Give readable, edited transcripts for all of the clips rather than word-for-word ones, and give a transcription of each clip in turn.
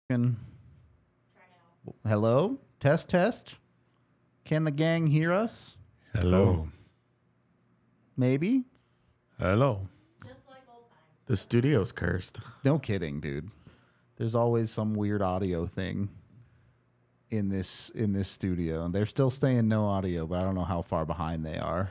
Hello? Test, test. Can the gang hear us? Hello. Maybe? Hello. Just like old times. The studio's cursed. No kidding, dude. There's always some weird audio thing in this studio, and they're still saying no audio, but I don't know how far behind they are.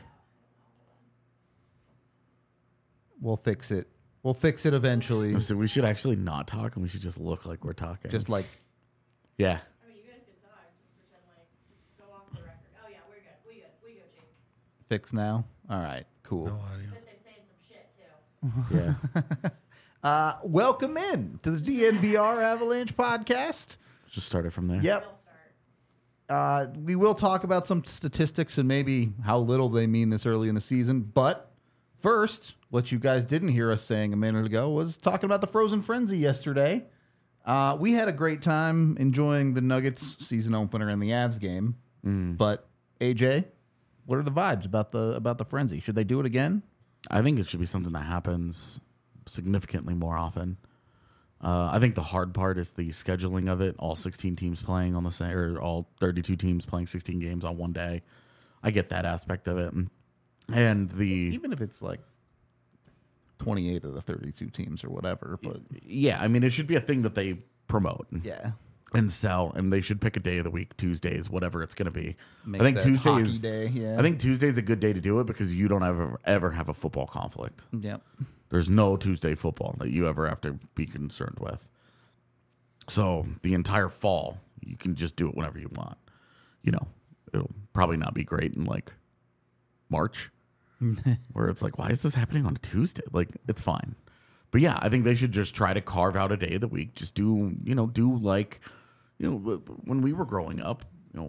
We'll fix it. We'll fix it eventually. So we should actually not talk, and we should just look like we're talking. Just like yeah. I mean, you guys can talk. Just pretend like, just go off the record. Oh, yeah, we're good. We good, Chief. fix now. All right, cool. No audio. But they're saying some shit, too. Yeah. Welcome in to the DNVR Avalanche podcast. Just start it from there. Yep. Real start. We will talk about some statistics and maybe how little they mean this early in the season. But first, what you guys didn't hear us saying a minute ago was talking about the Frozen Frenzy yesterday. We had a great time enjoying the Nuggets season opener and the Avs game. But AJ, what are the vibes about the Frenzy? Should they do it again? I think it should be something that happens significantly more often. I think the hard part is the scheduling of it. All 16 teams playing on the same, or all 32 teams playing 16 games on one day. I get that aspect of it, and Even if it's like 28 of the 32 teams or whatever, but yeah, I mean, it should be a thing that they promote. yeah. And sell, and they should pick a day of the week, Tuesdays, whatever it's going to be. Make I think that Tuesday hockey is. day, yeah. I think Tuesday is a good day to do it because you don't ever have a football conflict. Yep. There's no Tuesday football that you ever have to be concerned with. So the entire fall, you can just do it whenever you want. You know, it'll probably not be great in like March, where it's like, why is this happening on a Tuesday? Like, it's fine. But yeah, I think they should just try to carve out a day of the week. Just do like, when we were growing up,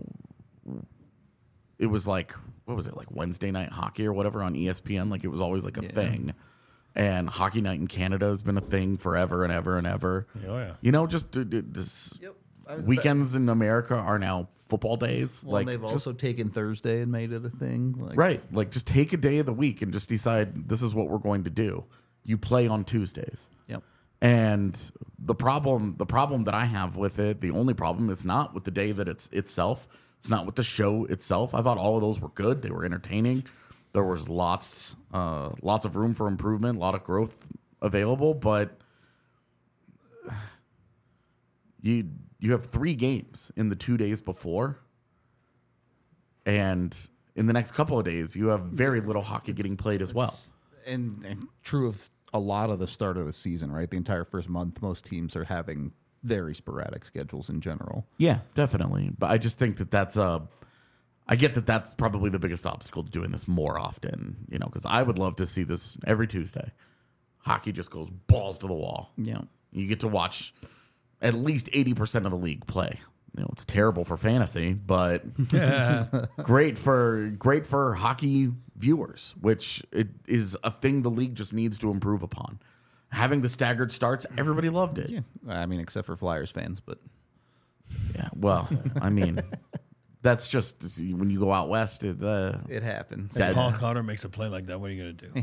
it was like, what was it, like Wednesday night hockey or whatever on ESPN? Like, it was always like a thing. And Hockey Night in Canada has been a thing forever and ever and ever. Oh, yeah. Just weekends in America are now football days. Well, like they've just- also taken Thursday and made it a thing. Like, right. Like, just take a day of the week and just decide this is what we're going to do. You play on Tuesdays. Yep. And the problem that I have with it, the only problem is not with the day that it's itself. It's not with the show itself. I thought all of those were good. They were entertaining. There was lots of room for improvement, a lot of growth available, but you have 3 games in the 2 days before, and in the next couple of days, you have very little hockey getting played as well. And true of a lot of the start of the season, right? The entire first month, most teams are having very sporadic schedules in general. Yeah, definitely. But I just think that I get that that's probably the biggest obstacle to doing this more often, because I would love to see this every Tuesday. Hockey just goes balls to the wall. Yeah. You get to watch at least 80% of the league play. It's terrible for fantasy, but great for hockey viewers, which it is a thing the league just needs to improve upon. Having the staggered starts, everybody loved it. Yeah. I mean, except for Flyers fans, but Yeah, well, I mean, that's just when you go out west. it happens. That- If Paul Cotter makes a play like that, what are you going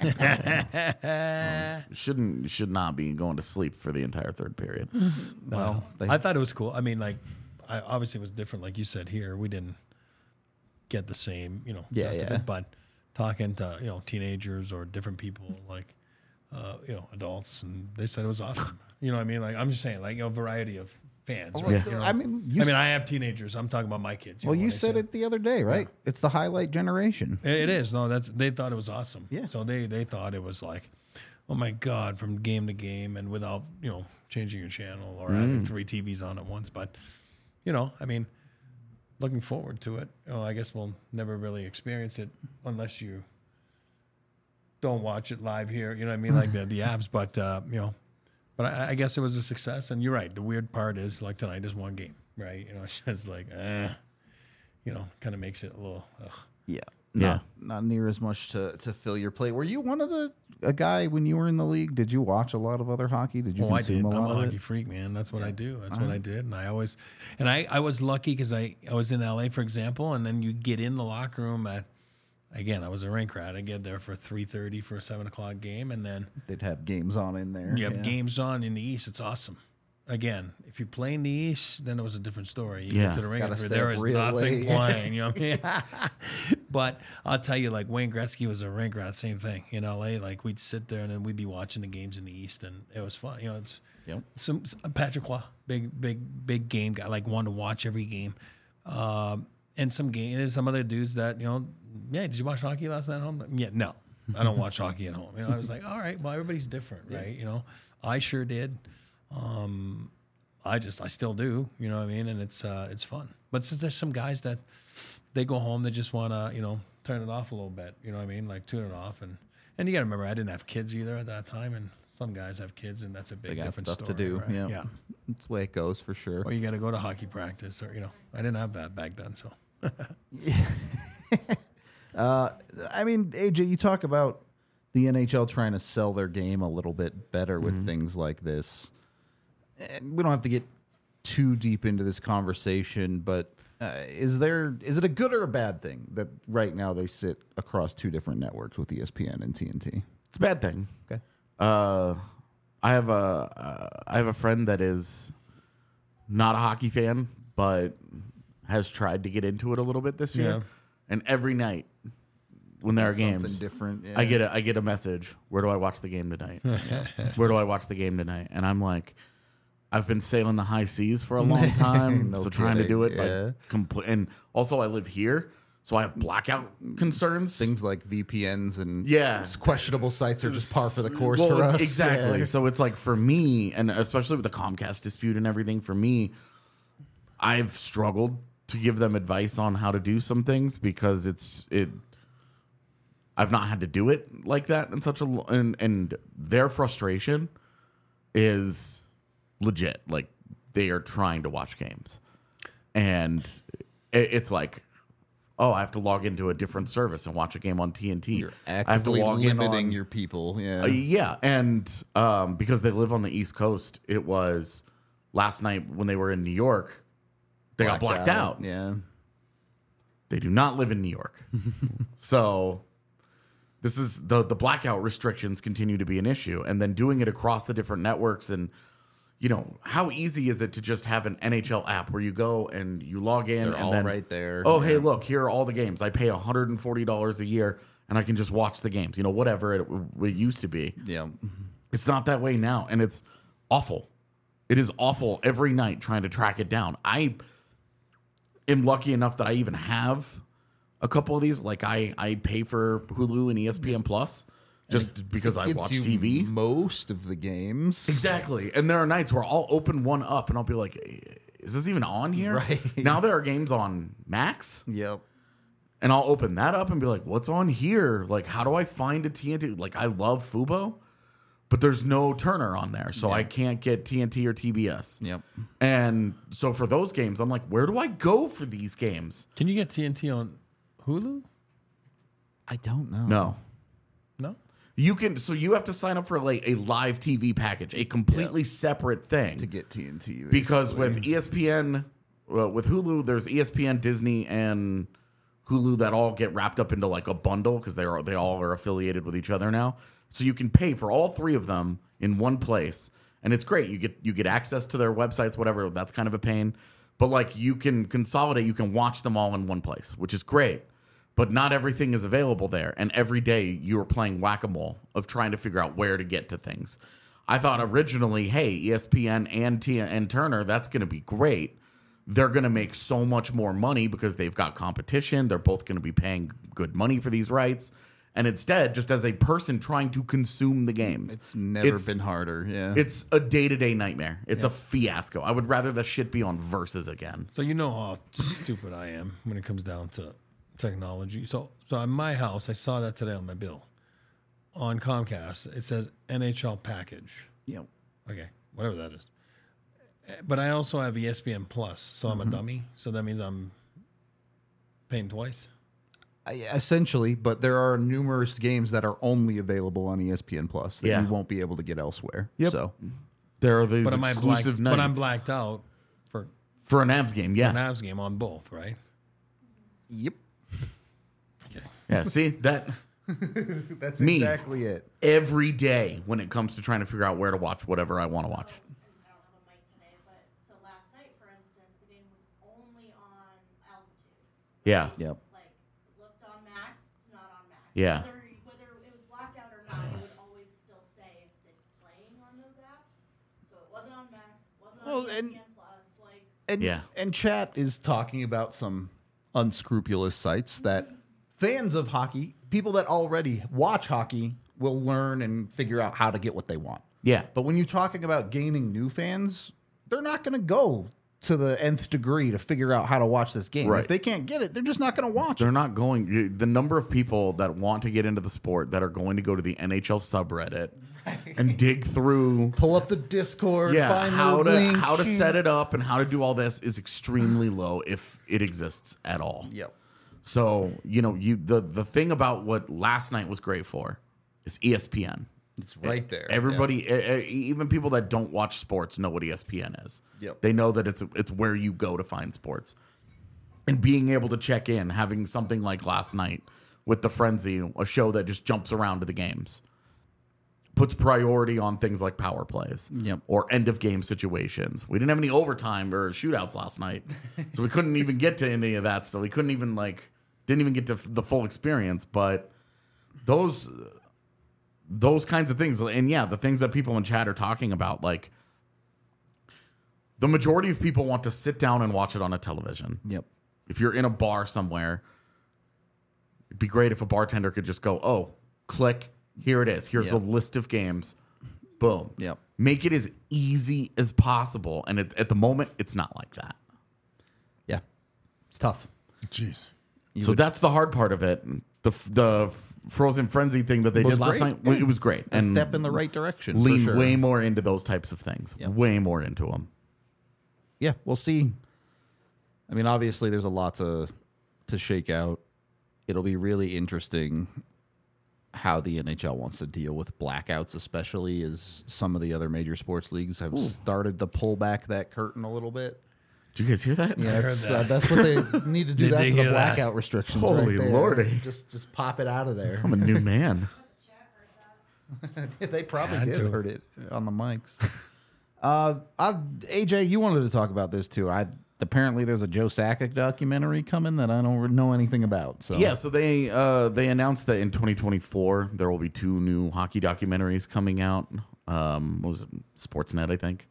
to do? should not be going to sleep for the entire third period. Well, I thought it was cool. I mean, obviously it was different. Like you said here, we didn't get the same, gist of yeah. it, but talking to, teenagers or different people, like, adults, and they said it was awesome. You know what I mean? Like, I'm just saying, like, variety of fans. well, Right? Yeah. I mean, I have teenagers. I'm talking about my kids. well, know, you when I said it the other day, right? It's the highlight generation. It is. No, they thought it was awesome. Yeah. So they thought it was like, oh my God, from game to game and without, changing your channel or having 3 TVs on at once. But, I mean, looking forward to it. I guess we'll never really experience it unless you don't watch it live here. You know what I mean? Like the Avs. But, but I guess it was a success. And you're right. The weird part is, like, tonight is 1 game, right? It's just like, kind of makes it a little, ugh. Yeah. Yeah. Not near as much to fill your plate. Were you one of a guy when you were in the league? Did you watch a lot of other hockey? Did you I did. consume a I'm lot a of hockey it? freak, man. That's what I do. That's what I did. And I was lucky because I was in LA, for example, and then you get in the locker room at, again, I was a rink rat. I get there for 3:30 for a 7 o'clock game, and then They'd have games on in there. you have games on in the East. It's awesome. again, if you play in the East, then it was a different story. You Yeah. get to the ring, Gotta and stay there up is real nothing late. playing. You know what I mean? But I'll tell you, like Wayne Gretzky was a rink rat, same thing in LA. Like we'd sit there and then we'd be watching the games in the East, and it was fun. You know, it's Yep. some Patrick Roy, big game guy, like wanted to watch every game. And there's some other dudes that, you know, yeah, did you watch hockey last night at home? Yeah, no, I don't watch hockey at home. You know, I was like, all right, well, everybody's different, right? You know, I sure did. I still do, you know what I mean? And it's fun. But there's some guys that they go home, they just want to, you know, turn it off a little bit, you know what I mean? Like tune it off. And you got to remember, I didn't have kids either at that time. And some guys have kids, and that's a They big got different stuff story. to do. Right? Yeah. Yeah. That's the way it goes for sure. Or you got to go to hockey practice, or, you know, I didn't have that back then. So I mean, AJ, you talk about the NHL trying to sell their game a little bit better with things like this. And we don't have to get too deep into this conversation, but is it a good or a bad thing that right now they sit across two different networks with ESPN and TNT? It's a bad thing. Okay. I have a friend that is not a hockey fan, but has tried to get into it a little bit this year. Yeah. And every night when there are Something games, different. Yeah. I get a message. Where do I watch the game tonight? Where do I watch the game tonight? And I'm like, I've been sailing the high seas for a long time, No so trying to do it kidding, like and also I live here, so I have blackout concerns. Things like VPNs and Yeah. questionable sites are just par for the course Well, for us. Exactly. Yeah. So it's like for me, and especially with the Comcast dispute and everything, for me, I've struggled to give them advice on how to do some things because I've not had to do it like that in such a and their frustration is legit. Like they are trying to watch games, and it's like, oh, I have to log into a different service and watch a game on TNT. You're I have to actively log in limiting on your people. Yeah. yeah, and because they live on the East Coast, it was last night when they were in New York, they got blacked out. Yeah. They do not live in New York, so this is the blackout restrictions continue to be an issue, and then doing it across the different networks. And you know, how easy is it to just have an NHL app where you go and you log in They're and all then right there. oh, hey, look, here are all the games. I pay $140 a year and I can just watch the games. You know, whatever it used to be. Yeah. It's not that way now, and it's awful. It is awful every night trying to track it down. I am lucky enough that I even have a couple of these. Like I pay for Hulu and ESPN Plus just because I Gets watch you TV. most of the games. Exactly. And there are nights where I'll open one up and I'll be like, is this even on here? Right. Now there are games on Max, Yep. and I'll open that up and be like, what's on here? Like, how do I find a TNT? Like, I love Fubo, but there's no Turner on there, so I can't get TNT or TBS. Yep. And so for those games, I'm like, where do I go for these games? can you get TNT on Hulu? I don't know. No. No. You can, so you have to sign up for like a live TV package, a completely separate thing. To get TNT. Because basically. with ESPN, with Hulu, there's ESPN, Disney, and Hulu that all get wrapped up into like a bundle because they all are affiliated with each other now. So you can pay for all three of them in one place, and it's great. You get access to their websites, whatever. That's kind of a pain, but like you can consolidate. You can watch them all in one place, which is great. But not everything is available there, and every day you're playing whack-a-mole of trying to figure out where to get to things. I thought originally, hey, ESPN and Turner, that's going to be great. They're going to make so much more money because they've got competition. They're both going to be paying good money for these rights. And instead, just as a person trying to consume the games, It's never been harder. Yeah. it's a day-to-day nightmare. It's a fiasco. I would rather the shit be on Versus again. So you know how stupid I am when it comes down to technology. So in my house, I saw that today on my bill. On Comcast, it says NHL package. Yep. Okay, whatever that is. But I also have ESPN Plus, so I'm a dummy. So that means I'm paying twice. Essentially, but there are numerous games that are only available on ESPN Plus that Yeah. you won't be able to get elsewhere. Yep. So There are these But exclusive nights. But I'm blacked out for For an Avs game, yeah. an Avs game on both, right? yep. Okay. Yeah, see, that That's Me. exactly it. every day when it comes to trying to figure out where to watch whatever I want to watch. I don't have a mic today. Yeah. Yep. Like, looked on Max, it's not on Max. Yeah. Whether it was blacked out or not, it would always still say if it's playing on those apps. So it wasn't on Max, wasn't on ESPN Plus. Like, And, Yeah. and chat is talking about some unscrupulous sites that fans of hockey, people that already watch hockey, will learn and figure out how to get what they want. Yeah. But when you're talking about gaining new fans, they're not going to go to the nth degree to figure out how to watch this game. Right. If they can't get it, they're just not going to watch They're it. not going. The number of people that want to get into the sport that are going to go to the NHL subreddit and dig through, Pull up the Discord, find how the link. to set it up and how to do all this is extremely low if it exists at all. Yep. So the thing about what last night was great for is ESPN. It's right there. Everybody, even people that don't watch sports, know what ESPN is. Yep. They know that it's where you go to find sports. And being able to check in, having something like last night with the Frenzy, a show that just jumps around to the games, puts priority on things like power plays Yep. or end of game situations. We didn't have any overtime or shootouts last night, so we couldn't even get to any of that stuff. We couldn't even didn't even get to the full experience. But those kinds of things, and yeah, the things that people in chat are talking about, like the majority of people want to sit down and watch it on a television. Yep. If you're in a bar somewhere, it'd be great if a bartender could just go, oh, click, here it is. Here's Yep. the list of games. Boom. Yep. Make it as easy as possible. And at the moment, it's not like that. Yeah. It's tough. Jeez. So that's the hard part of it. The Frozen Frenzy thing that they Was did last great. night, it was great. A step in the right direction. for Lean sure. way more into those types of things. Yep. Way more into them. Yeah, we'll see. I mean, obviously, there's a lot to shake out. It'll be really interesting how the NHL wants to deal with blackouts, especially as some of the other major sports leagues have started to pull back that curtain a little bit. Did you guys hear that? Yeah, heard that's what they need to do. Did That they for the hear that? blackout restrictions. Holy right there. lordy. Just pop it out of there. I'm a new man. They probably Had did to. heard it on the mics. AJ, you wanted to talk about this too. Apparently there's a Joe Sakic documentary coming that I don't know anything about. So Yeah, so they announced that in 2024 there will be 2 new hockey documentaries coming out. What was it? Sportsnet, I think.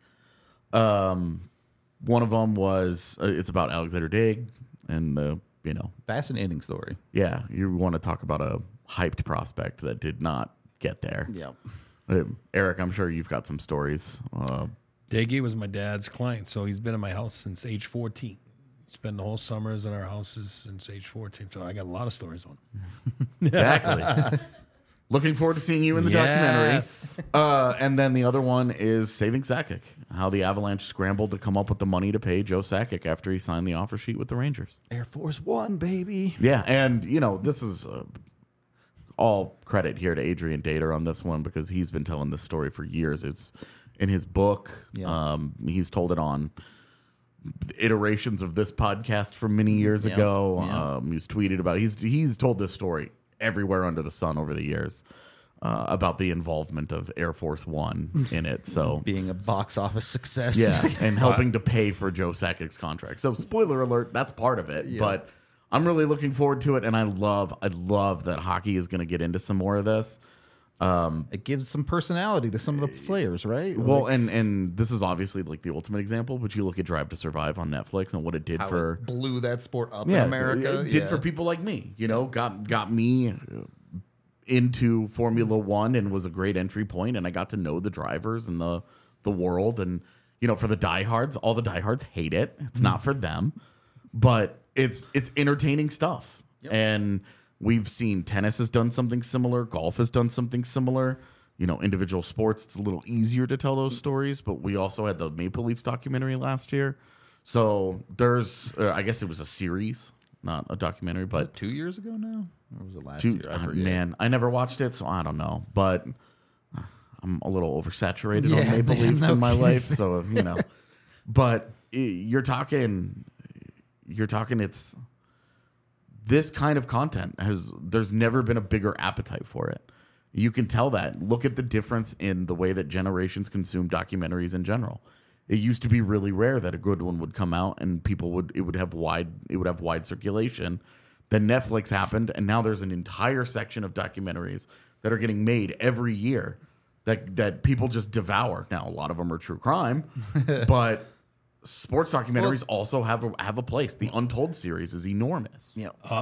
One of them was it's about Alexander Dig and fascinating story. yeah, you want to talk about a hyped prospect that did not get there. Yep. Eric, I'm sure you've got some stories. Daggy was my dad's client, so he's been in my house since age 14. Spent the whole summers at our houses since age 14, so I got a lot of stories on him. Exactly. Looking forward to seeing you in the Yes. documentary. And then the other one is Saving Sakic, how the Avalanche scrambled to come up with the money to pay Joe Sakic after he signed the offer sheet with the Rangers. Air Force One, baby. Yeah, and, this is all credit here to Adrian Dater on this one because he's been telling this story for years. It's in his book. Yeah. He's told it on iterations of this podcast from many years Yeah. ago. Yeah. He's tweeted about it. He's told this story everywhere under the sun over the years about the involvement of Air Force One in it. So Being a box office success. yeah, and helping to pay for Joe Sakic's contract. So spoiler alert, that's part of it. But I'm really looking forward to it, and I love that hockey is going to get into some more of this. It gives some personality to some of the players, right? Well, Like, and this is obviously like the ultimate example, but you look at Drive to Survive on Netflix and what it did how for it blew that sport up in America. it did for people like me. Got me into Formula One and was a great entry point, and I got to know the drivers and the world. And for the diehards, all the diehards hate it. It's not for them, but it's entertaining stuff. And we've seen tennis has done something similar, golf has done something similar. Individual sports, it's a little easier to tell those stories, but we also had the Maple Leafs documentary last year. So there's, I guess it was a series, not a documentary, Was but it 2 years ago now? Or was it last year? I forget. man, I never watched it, so I don't know. But I'm a little oversaturated on Yeah, Maple man, Leafs no in my kidding. life, so But you're talking. It's this kind of content there's never been a bigger appetite for it. You can tell that. Look at the difference in the way that generations consume documentaries in general. It used to be really rare that a good one would come out and it would have wide circulation. Then Netflix happened, and now there's an entire section of documentaries that are getting made every year that people just devour. Now, a lot of them are true crime, but sports documentaries also have a place. The Untold series is enormous. Yeah.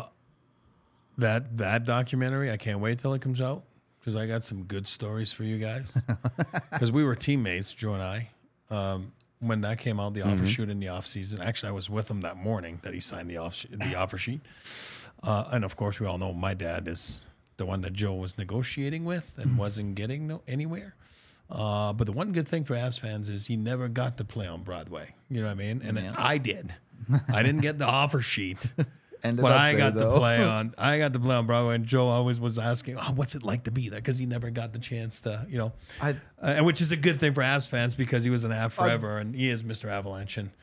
That documentary, I can't wait till it comes out because I got some good stories for you guys. Because we were teammates, Joe and I, when that came out, the offer sheet in the off season. Actually, I was with him that morning that he signed the offer sheet. And of course, we all know my dad is the one that Joe was negotiating with and wasn't getting anywhere. But the one good thing for Avs fans is he never got to play on Broadway. You know what I mean? And I did. I didn't get the offer sheet. But I got to play on Broadway, and Joe always was asking, "What's it like to be there?" Because he never got the chance to, and which is a good thing for Avs fans because he was an Av forever, and he is Mr. Avalanche, and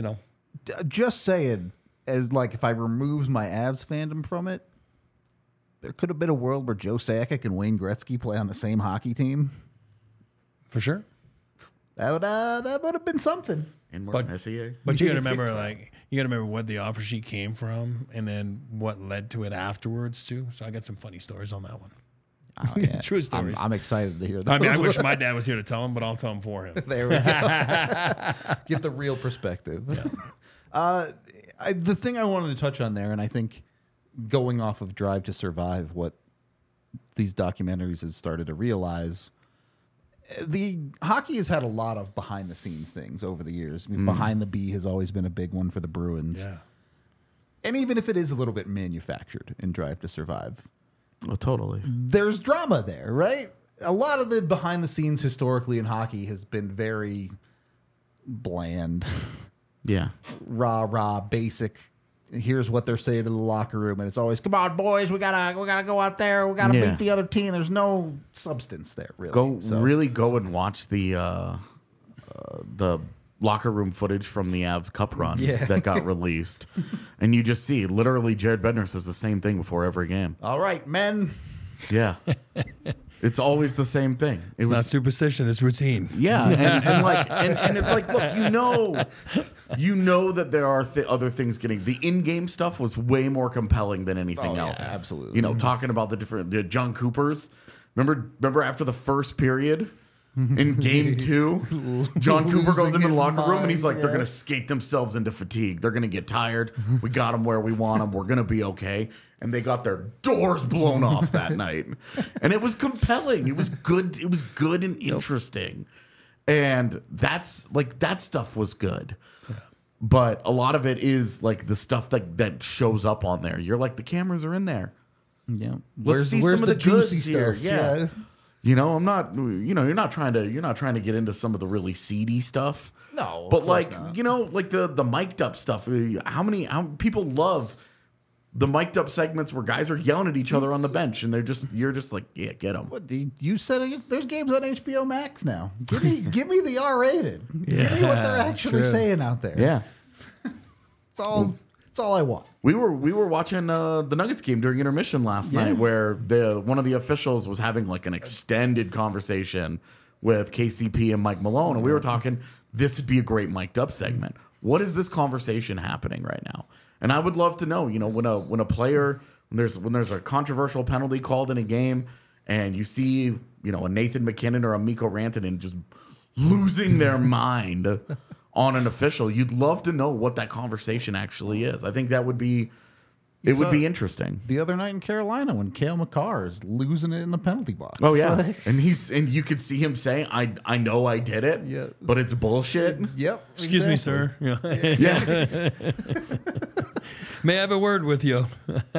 Just saying, as like if I removed my Avs fandom from it, there could have been a world where Joe Sakic and Wayne Gretzky play on the same hockey team. For sure, that would have been something. And more SEA. But you got to remember, what the offer sheet came from, and then what led to it afterwards too. So I got some funny stories on that one. Oh, yeah. True stories. I'm excited to hear that. I mean, I wish my dad was here to tell them, but I'll tell them for him. There we go. Get the real perspective. Yeah. The thing I wanted to touch on there, and I think going off of Drive to Survive, what these documentaries have started to realize, the hockey has had a lot of behind the scenes things over the years. I mean, Behind the B has always been a big one for the Bruins. Yeah. And even if it is a little bit manufactured in Drive to Survive, Oh, totally. there's drama there, right? A lot of the behind the scenes historically in hockey has been very bland, Yeah. rah, basic. Here's what they're saying to the locker room, and it's always, "Come on, boys, we gotta go out there. We gotta beat the other team." There's no substance there, really. Really go and watch the locker room footage from the Avs Cup run that got released, and you just see literally Jared Bednar says the same thing before every game. All right, men. Yeah. It's always the same thing. It's not superstition; it's routine. Yeah, and it's like, look, you know that there are other things getting. The in-game stuff was way more compelling than anything else. Absolutely. Talking about the John Coopers. Remember after the first period in Game 2, John Cooper goes into the locker room and he's like, they're going to skate themselves into fatigue. They're going to get tired. We got them where we want them. We're going to be okay. And they got their doors blown off that night. And it was compelling. It was good. It was good and interesting. And that stuff was good. Yeah. But a lot of it is like the stuff that shows up on there. You're like, the cameras are in there. Yeah. Let's see some of the juicy stuff. stuff? Yeah. I'm not, you're not trying to get into some of the really seedy stuff. No, but like, not. Like the mic'd up stuff. How people love the mic'd up segments where guys are yelling at each other on the bench, and you're just like, yeah, get them. What, you said there's games on HBO Max now. Give me the R-rated. Give me what they're actually saying out there. Yeah, it's all I want. We were watching the Nuggets game during intermission last night, where one of the officials was having like an extended conversation with KCP and Mike Malone, and we were talking. This would be a great mic'd up segment. What is this conversation happening right now? And I would love to know, when a player, when there's a controversial penalty called in a game, and you see, a Nathan McKinnon or a Mikko Rantanen just losing their mind on an official, you'd love to know what that conversation actually is. I think that would be, would be interesting. The other night in Carolina when Cale Makar is losing it in the penalty box. Oh yeah, and you could see him saying, "I know I did it, but it's bullshit." Yep. Excuse me, sir. Yeah. May I have a word with you?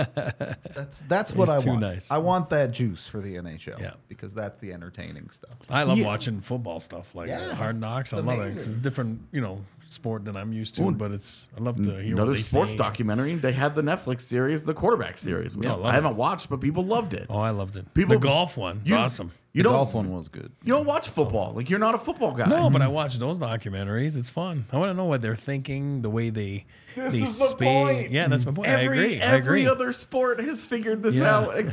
That's what I want. Nice. I want that juice for the NHL. Yeah. Because that's the entertaining stuff. I love watching football stuff like Hard Knocks. I love it. Amazing. It's a different, sport than I'm used to, but I love to hear another what they sports say. documentary. They had the Netflix series, the quarterback series, which I haven't watched, but people loved it. Oh, I loved it. People- The golf one, it's awesome. The golf one was good. You don't watch football. Like, you're not a football guy. No, but I watch those documentaries. It's fun. I want to know what they're thinking, the way they This they is the speak. point. Yeah, that's my point. I agree. Every other sport has figured this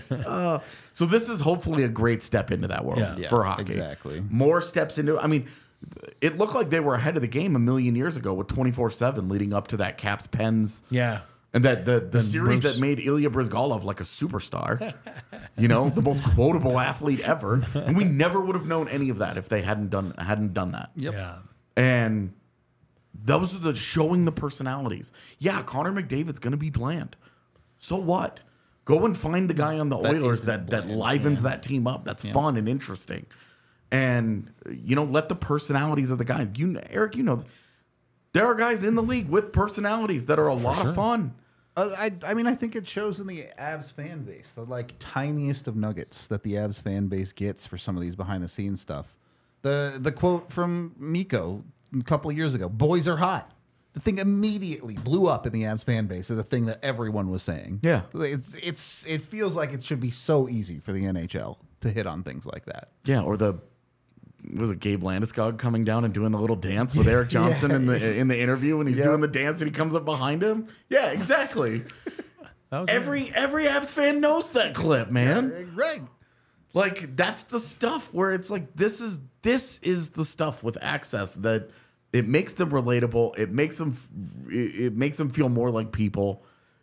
out. So this is hopefully a great step into that world for hockey. Exactly. More steps into. I mean, it looked like they were ahead of the game a million years ago with 24/7 leading up to that Caps Pens. Yeah. And that the series Bruce. that made Ilya Brizgalov like a superstar, the most quotable athlete ever, and we never would have known any of that if they hadn't done that. Yep. Yeah. And those are the showing the personalities. Yeah, Connor McDavid's going to be bland. So what? Go and find the guy on the Oilers that livens that team up. That's fun and interesting. And let the personalities of the guys. Eric, there are guys in the league with personalities that are a lot of fun. I mean, I think it shows in the Avs fan base, the like tiniest of nuggets that the Avs fan base gets for some of these behind the scenes stuff. The quote from Mikko a couple of years ago, "Boys are hot." The thing immediately blew up in the Avs fan base as a thing that everyone was saying. Yeah. It feels like it should be so easy for the NHL to hit on things like that. Yeah, or was it Gabe Landeskog coming down and doing the little dance with Eric Johnson in the interview when he's doing the dance and he comes up behind him? Yeah, exactly. That was every Avs fan knows that clip, man. Right. Like that's the stuff where it's like this is the stuff with access that it makes them relatable. It makes them feel more like people.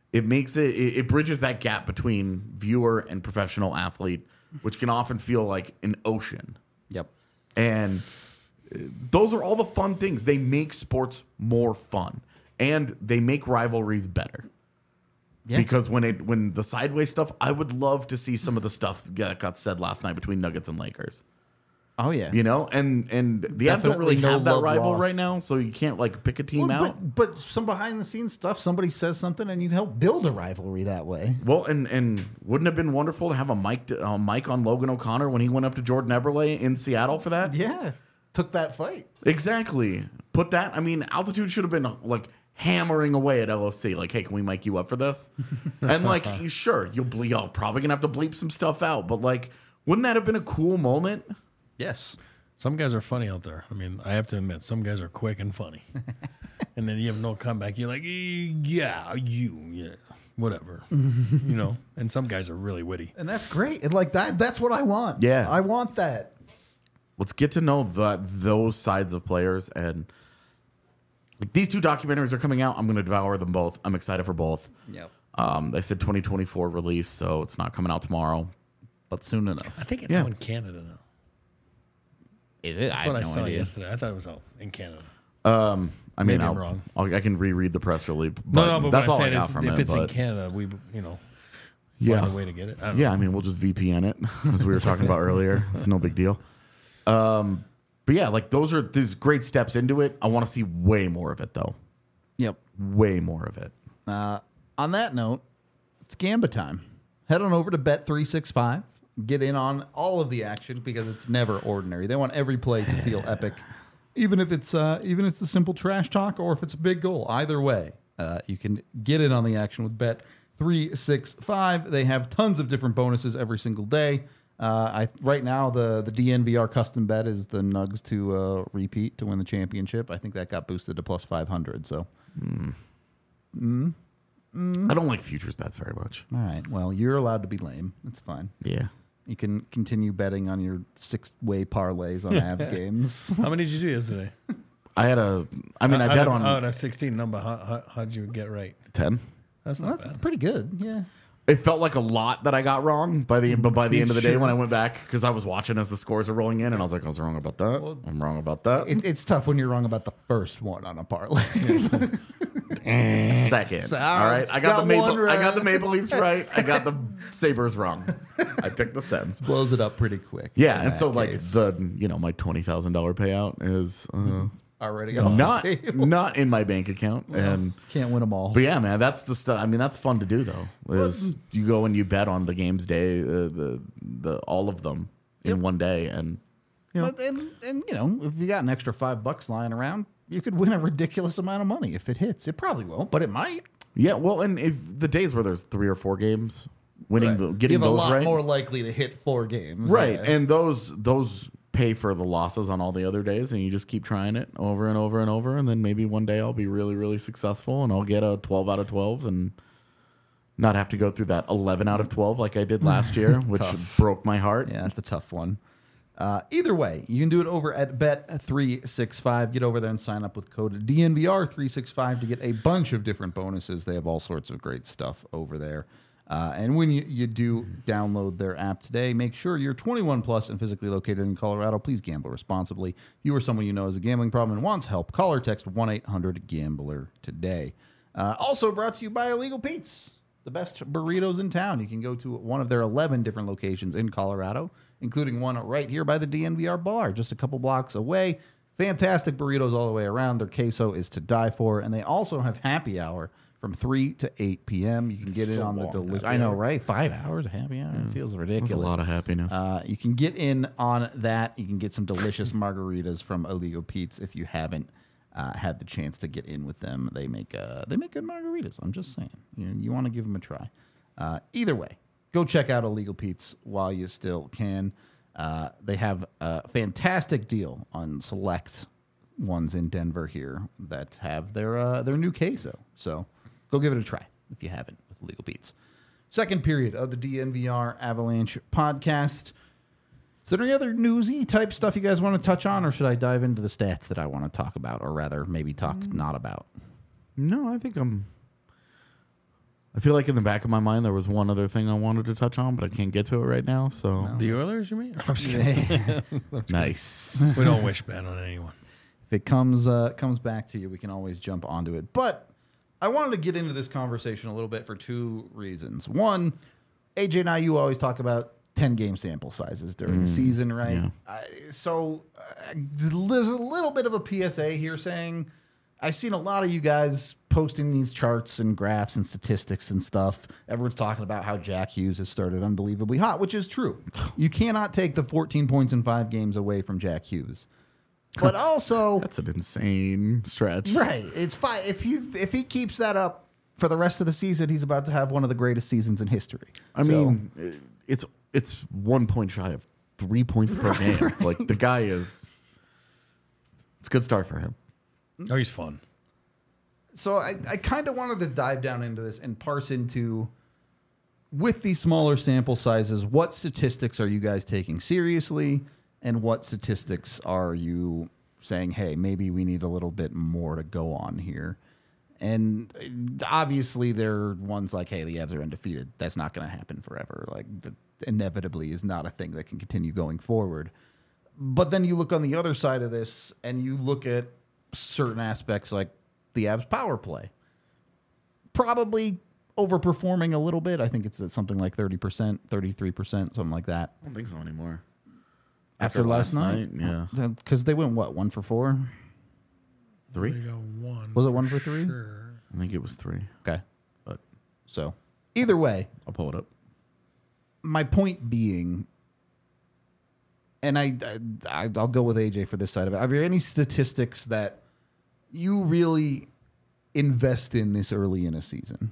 It bridges that gap between viewer and professional athlete, which can often feel like an ocean. Yep. And those are all the fun things. They make sports more fun, and they make rivalries better. Yeah. Because when the sideways stuff, I would love to see some of the stuff that got said last night between Nuggets and Lakers. Oh yeah, and the Avs don't really have that rival right now, so you can't like pick a team out. But some behind the scenes stuff, somebody says something, and you help build a rivalry that way. Well, and wouldn't it have been wonderful to have a mic on Logan O'Connor when he went up to Jordan Eberle in Seattle for that? Yeah, took that fight exactly. Put that. I mean, Altitude should have been like hammering away at LOC, like, hey, can we mic you up for this? And like, sure, you're probably gonna have to bleep some stuff out, but like, wouldn't that have been a cool moment? Yes. Some guys are funny out there. I mean, I have to admit, some guys are quick and funny. And then you have no comeback. You're like, yeah, whatever. And some guys are really witty. And that's great. And like that's what I want. Yeah. I want that. Let's get to know those sides of players. And like, these two documentaries are coming out. I'm going to devour them both. I'm excited for both. Yep. They said 2024 release, so it's not coming out tomorrow, but soon enough. I think it's out in Canada now. Is it? That's what I saw yesterday. I thought it was out in Canada. I mean, Maybe I'm wrong. I can reread the press release. But that's all what I'm I saying got is, from if it. it's in Canada, we find a way to get it. I mean, we'll just VPN it, as we were talking about earlier. It's no big deal. But yeah, like these great steps into it. I want to see way more of it, though. Yep. Way more of it. On that note, it's Gamba time. Head on over to Bet365. Get in on all of the action because it's never ordinary. They want every play to feel epic, even if it's the simple trash talk or if it's a big goal. Either way, you can get in on the action with Bet365. They have tons of different bonuses every single day. Right now the DNVR custom bet is the Nugs to repeat to win the championship. I think that got boosted to plus 500. So. I don't like futures bets very much. All right. Well, you're allowed to be lame. It's fine. Yeah. You can continue betting on your 6-way parlays on Avs games. How many did you do yesterday? I bet on... Out of 16 number, how'd you get right? 10. That's not bad. Pretty good, yeah. It felt like a lot that I got wrong by the end of the day when I went back because I was watching as the scores are rolling in and I was like, I was wrong about that. I'm wrong about that. It's tough when you're wrong about the first one on a parlay. Second. So, all right. I got the Maple Leafs right. I got the Sabres wrong. I picked the Sens. Blows it up pretty quick. Yeah, and so case. Like my $20,000 payout is already not in my bank account, and can't win them all. But yeah, man, that's the stuff. I mean, that's fun to do though. Is you go and you bet on the games day, the all of them in one day, and if you got an extra $5 lying around, you could win a ridiculous amount of money if it hits. It probably won't, but it might. Yeah, well, and if the days where there's 3 or 4 games, getting you're those a lot right, more likely to hit 4 games, right? Yeah. And those pay for the losses on all the other days, and you just keep trying it over and over and over, and then maybe one day I'll be really, really successful, and I'll get a 12 out of 12, and not have to go through that 11 out of 12 like I did last year, which broke my heart. Yeah, that's a tough one. Either way, you can do it over at Bet365. Get over there and sign up with code DNVR365 to get a bunch of different bonuses. They have all sorts of great stuff over there. And when you do download their app today, make sure you're 21 plus and physically located in Colorado. Please gamble responsibly. If you or someone you know has a gambling problem and wants help, call or text 1-800-GAMBLER today. Also brought to you by Illegal Pete's, the best burritos in town. You can go to one of their 11 different locations in Colorado, including one right here by the DNVR bar, just a couple blocks away. Fantastic burritos all the way around. Their queso is to die for. And they also have happy hour from 3 to 8 p.m. You can get in on the delicious. I know, right? 5 hours of happy hour. It feels ridiculous. That's a lot of happiness. You can get in on that. You can get some delicious margaritas from Illegal Pete's if you haven't had the chance to get in with them. They make good margaritas. I'm just saying. You want to give them a try. Either way, go check out Illegal Pete's while you still can. They have a fantastic deal on select ones in Denver here that have their new queso. So go give it a try if you haven't with Illegal Pete's. Second period of the DNVR Avalanche podcast. Is there any other newsy type stuff you guys want to touch on, or should I dive into the stats that I want to talk about, or rather maybe talk not about? No, I think I feel like in the back of my mind there was one other thing I wanted to touch on, but I can't get to it right now. So The Oilers, you mean? I'm just kidding. nice. We don't wish bad on anyone. If it comes back to you, we can always jump onto it. But I wanted to get into this conversation a little bit for two reasons. One, AJ and you always talk about 10-game sample sizes during the season, right? Yeah. So there's a little bit of a PSA here saying I've seen a lot of you guys posting these charts and graphs and statistics and stuff. Everyone's talking about how Jack Hughes has started unbelievably hot, which is true. You cannot take the 14 points in 5 games away from Jack Hughes. But also, That's an insane stretch. right, it's fine. If he keeps that up for the rest of the season, he's about to have one of the greatest seasons in history. I mean, it's 1 point shy of 3 points per game. Right. Like the guy is. It's a good start for him. Oh, he's fun. So I kind of wanted to dive down into this and parse into, with these smaller sample sizes, what statistics are you guys taking seriously, and what statistics are you saying, hey, maybe we need a little bit more to go on here? And obviously there are ones like, hey, the Avs are undefeated. That's not going to happen forever. Like, inevitably is not a thing that can continue going forward. But then you look on the other side of this and you look at certain aspects like the Avs power play. Probably overperforming a little bit. I think it's at something like 30%, 33%, something like that. I don't think so anymore. After last night? Yeah. Because they went, what, 1 for 4? 3? They got one. Was it 1 for 3? Sure. I think it was 3. Okay. But So either way, I'll pull it up. my point being, and I'll go with AJ for this side of it. Are there any statistics that you really invest in this early in a season?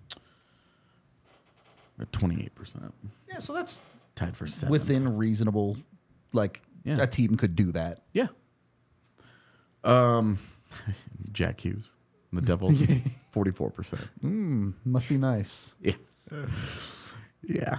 At 28%. Yeah, so that's Tied for 7th. within reasonable. Like, Yeah. a team could do that. Yeah. Jack Hughes. The Devils. 44%. Must be nice. Yeah. Yeah.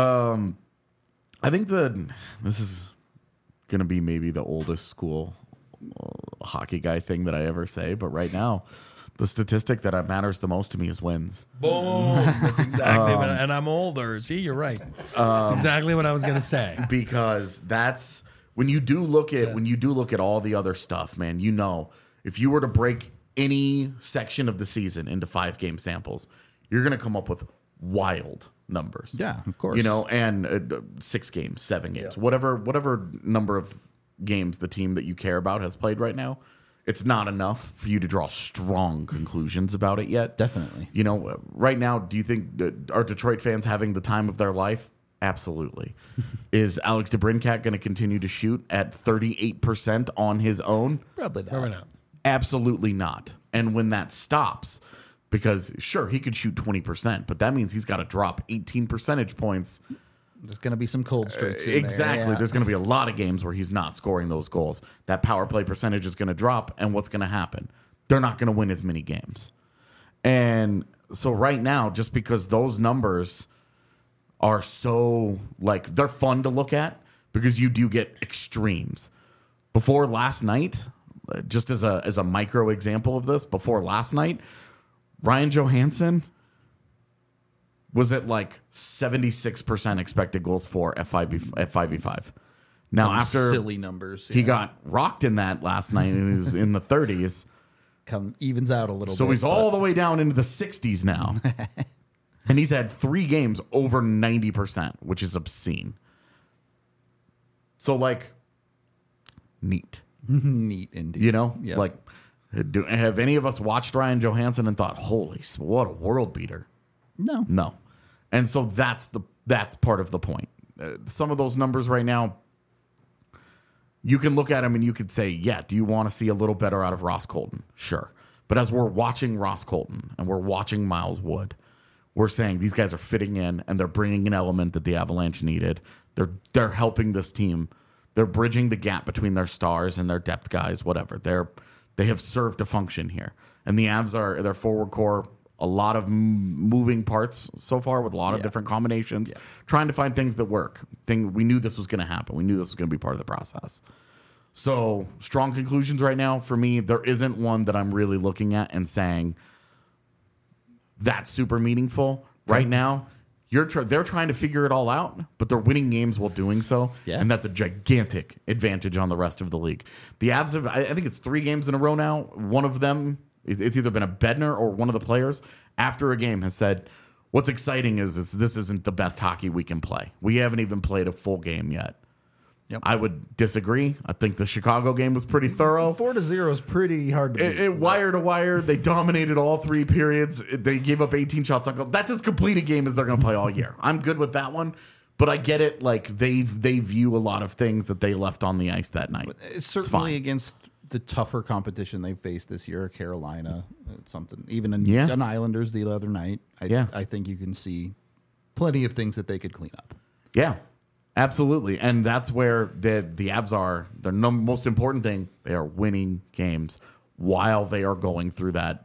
I think this is going to be maybe the oldest school hockey guy thing that I ever say, but right now, the statistic that matters the most to me is wins. Boom. That's exactly what and I'm older. See, you're right. That's exactly what I was going to say. Because that's when you do look at all the other stuff, man, you know, if you were to break any section of the season into 5-game samples, you're going to come up with wild numbers. Yeah, of course. You know, and 6 games, 7 games, whatever number of games the team that you care about has played right now, it's not enough for you to draw strong conclusions about it yet. Definitely. You know, right now, do you think are Detroit fans having the time of their life? Absolutely. Is Alex DeBrincat going to continue to shoot at 38% on his own? Probably not. Probably not. Absolutely not. And when that stops, because sure, he could shoot 20%, but that means he's got to drop 18 percentage points. There's going to be some cold streaks in Exactly. there. Yeah. There's going to be a lot of games where he's not scoring those goals. That power play percentage is going to drop, and what's going to happen? They're not going to win as many games. And so right now, just because those numbers are so, like, they're fun to look at because you do get extremes. Before last night, just as a micro example of this, before last night, Ryan Johansson was at like 76% expected goals for at 5v5. Now, Some after silly numbers, he got rocked in that last night, and he was in the 30s. Evens out a little bit. So he's all the way down into the 60s now. And he's had 3 games over 90%, which is obscene. So, like, neat. neat indeed. You know? Yep. Like, have any of us watched Ryan Johansson and thought, holy, what a world beater? No. No. And so that's part of the point. Some of those numbers right now, you can look at them and you could say, yeah, do you want to see a little better out of Ross Colton? Sure. But as we're watching Ross Colton and we're watching Miles Wood, we're saying these guys are fitting in and they're bringing an element that the Avalanche needed. They're helping this team. They're bridging the gap between their stars and their depth guys, whatever. They have served a function here. And the Avs are their forward core, a lot of moving parts so far with a lot of different combinations, trying to find things that work. We knew this was going to happen. We knew this was going to be part of the process. So strong conclusions right now for me. There isn't one that I'm really looking at and saying that's super meaningful. Right now, they're trying to figure it all out, but they're winning games while doing so. Yeah. And that's a gigantic advantage on the rest of the league. The Avs have, I think it's 3 games in a row now. One of them, it's either been a Bednar or one of the players after a game has said, what's exciting is this isn't the best hockey we can play. We haven't even played a full game yet. Yep. I would disagree. I think the Chicago game was pretty thorough. 4-0 is pretty hard to beat. It wire to wire. They dominated all 3 periods. They gave up 18 shots on goal. That's as complete a game as they're going to play all year. I'm good with that one. But I get it. Like they view a lot of things that they left on the ice that night. It's certainly against the tougher competition they faced this year, Carolina, something. Even in Islanders the other night, I think you can see plenty of things that they could clean up. Yeah, absolutely. And that's where the Avs are. Their most important thing, they are winning games while they are going through that,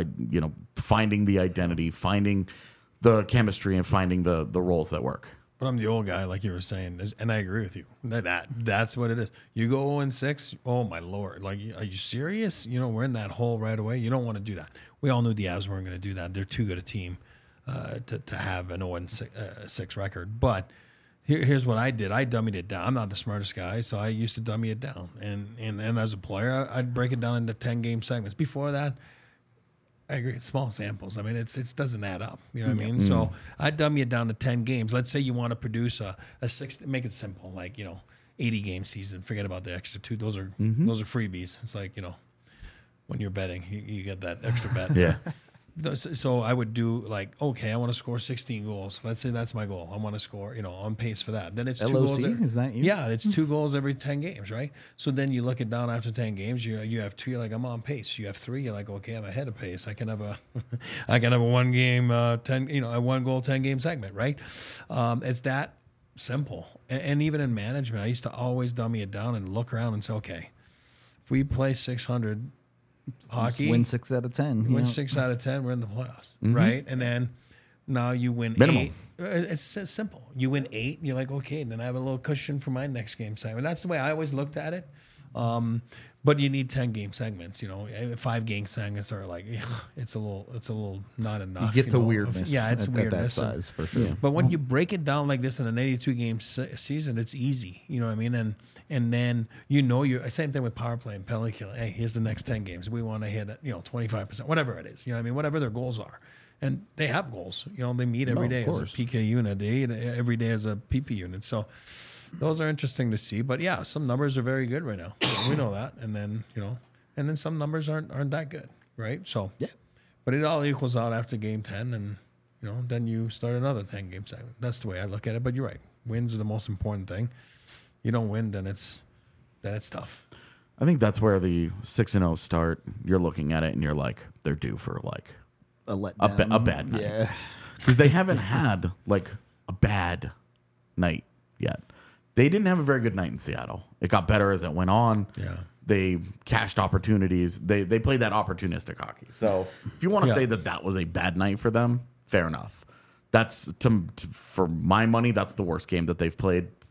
finding the identity, finding the chemistry, and finding the roles that work. But I'm the old guy, like you were saying, and I agree with you. That's what it is. You go 0-6, oh my Lord! Like, are you serious? We're in that hole right away. You don't want to do that. We all knew the Avs weren't going to do that. They're too good a team to have an 0-6 record. But here's what I did. I dummied it down. I'm not the smartest guy, so I used to dummy it down. And as a player, I'd break it down into 10-game segments. Before that, I agree. It's small samples. I mean, it doesn't add up. You know what I mean? So I dummy it down to 10 games. Let's say you want to produce a 6. Make it simple, like 80-game season. Forget about the extra 2. Those are freebies. It's like when you're betting, you get that extra bet. Yeah. So I would do like, okay, I want to score 16 goals. Let's say that's my goal. I want to score, on pace for that. Then it's LOC? 2 goals. Is that you? Yeah, it's 2 goals every 10 games, right? So then you look it down after 10 games. You have 2. You're like, I'm on pace. You have 3. You're like, okay, I'm ahead of pace. I can have a 1 game 10. A 1 goal 10 game segment, right? It's that simple. And even in management, I used to always dummy it down and look around and say, okay, if we play 600. Hockey, win 6 out of 10. Win 6 out of 10, we're in the playoffs, right? And then now you win Minimum. 8. It's simple. You win 8, and you're like, okay, then I have a little cushion for my next game segment. That's the way I always looked at it. But you need 10-game segments. 5-game segments are like, it's a little not enough. You get the weirdness. Yeah, it's At weirdness. that size, for sure. But when you break it down like this in an 82-game season, it's easy. You know what I mean? And then you're same thing with power play and penalty kill. Hey, here's the next 10 games. We want to hit 25%, whatever it is. You know what I mean? Whatever their goals are. And they have goals. They meet every day as a PK unit. They eat every day as a PP unit. So those are interesting to see. But yeah, some numbers are very good right now. We know that. And then, and then some numbers aren't that good, right? So Yeah. But it all equals out after game 10, and then you start another 10-game segment. That's the way I look at it. But you're right. Wins are the most important thing. You don't win, then it's tough. I think that's where the 6-0 start, you're looking at it and you're like, they're due for like A letdown. a bad night. Yeah. Because they haven't had like a bad night yet. They didn't have a very good night in Seattle. It got better as it went on. Yeah. They cashed opportunities. They played that opportunistic hockey. So if you want to say that was a bad night for them, fair enough. That's for my money, that's the worst game that they've played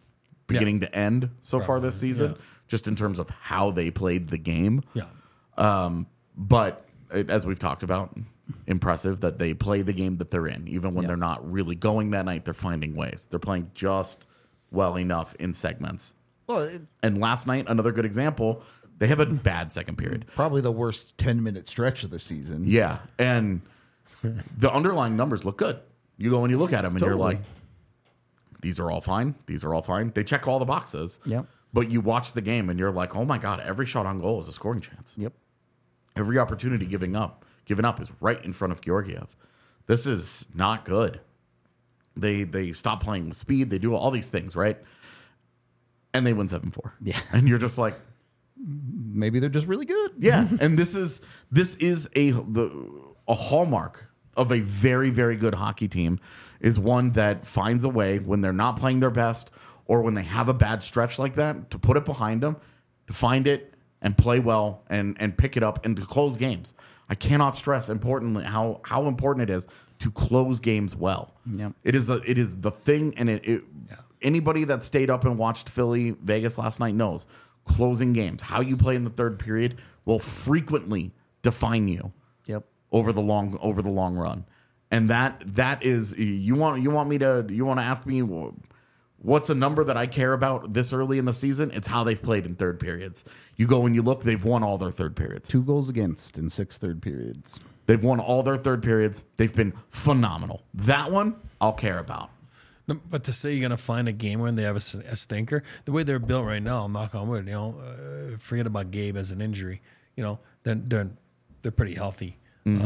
beginning to end so far this season, yeah. just in terms of how they played the game. Yeah. But as we've talked about, impressive that they play the game that they're in. Even when they're not really going that night, they're finding ways. They're playing just well enough in segments. Well, And last night, another good example, they have a bad second period. probably the worst 10-minute stretch of the season. Yeah. And the underlying numbers look good. You go and you look at them and you're Totally. like, these are all fine. These are all fine. They check all the boxes. Yep. But you watch the game and you're like, oh my God, every shot on goal is a scoring chance. Yep. Every opportunity given up is right in front of Georgiev. This is not good. They stop playing with speed. They do all these things, right? And they win 7-4. Yeah. And you're just like, Maybe they're just really good. yeah. And this is a hallmark of a very, very good hockey team, is one that finds a way when they're not playing their best or when they have a bad stretch like that to put it behind them, to find it and play well and pick it up and to close games. I cannot stress importantly how important it is to close games well. Yep. It is the thing, and anybody that stayed up and watched Philly Vegas last night knows closing games, how you play in the third period, will frequently define you Yep. over the long run. And that is you want to ask me what's a number that I care about this early in the season? It's how they've played in third periods. You go and you look, they've won all their third periods. 2 goals against in 6 third periods. They've won all their third periods. They've been phenomenal. That one I'll care about. No, but to say you're going to find a game when they have a stinker, the way they're built right now, knock on wood, forget about Gabe as an injury. They're pretty healthy.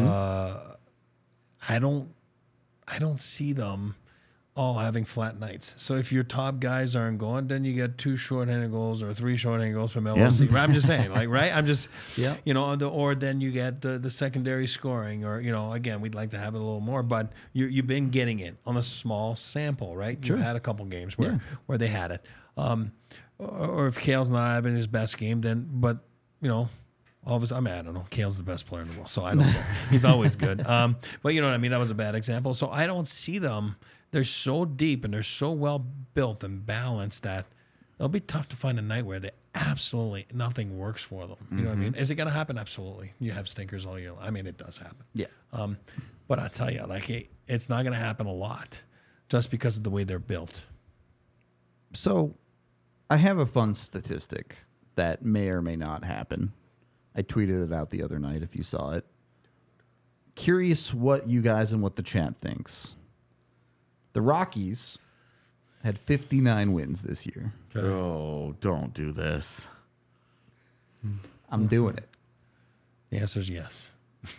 I don't see them all having flat nights. So if your top guys aren't going, then you get 2 shorthanded goals or 3 shorthanded goals from LLC. Yeah. I'm just saying, right? I'm just, Yeah. or then you get the secondary scoring, or again, we'd like to have it a little more, but you've been getting it on a small sample, right? Sure. You've had a couple games where they had it. Or if Kale's not having his best game, then, but all of us, I don't know. Kale's the best player in the world, so I don't know. He's always good. But you know what I mean? That was a bad example. So I don't see them. They're so deep and they're so well built and balanced that it'll be tough to find a night where they absolutely nothing works for them. You know what I mean? Is it going to happen? Absolutely. You have stinkers all year long. I mean, it does happen. Yeah. But I tell you, it's not going to happen a lot just because of the way they're built. So I have a fun statistic that may or may not happen. I tweeted it out the other night if you saw it. Curious what you guys and what the chat thinks. The Rockies had 59 wins this year. Oh, don't do this. I'm doing it. The answer is yes.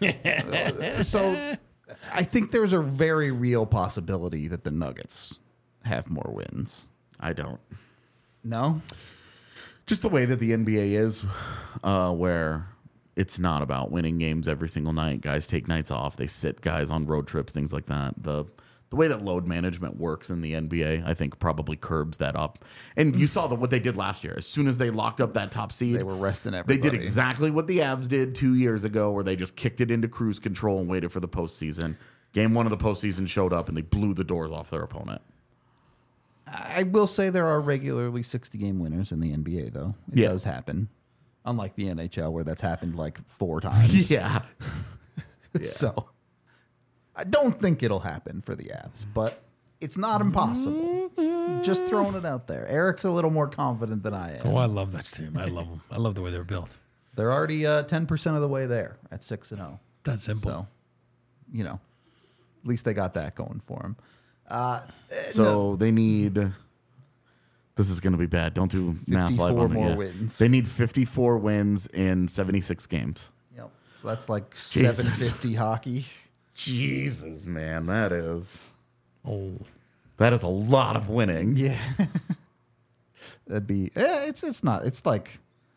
So I think there's a very real possibility that the Nuggets have more wins. I don't. No? Just the way that the NBA is, where it's not about winning games every single night. Guys take nights off. They sit guys on road trips, things like that. The way that load management works in the NBA, I think, probably curbs that up. And you saw what they did last year. As soon as they locked up that top seed, They were resting everybody. They did exactly what the Avs did 2 years ago, where they just kicked it into cruise control and waited for the postseason. Game 1 of the postseason showed up, and they blew the doors off their opponent. I will say there are regularly 60-game winners in the NBA, though. It Yeah. does happen. Unlike the NHL, where that's happened like 4 times. Yeah. So I don't think it'll happen for the Avs, but it's not impossible. Just throwing it out there. Eric's a little more confident than I am. Oh, I love that team. I love them. I love the way they're built. They're already 10% of the way there at 6-0. That's simple. So, at least they got that going for them. So they need. This is going to be bad. Don't do math live 54 on more it. wins. They need 54 wins in 76 games. Yep. So that's like Jesus. 750 hockey. Jesus, man, that is Oh, a lot of winning. Yeah. That'd be it's not. It's like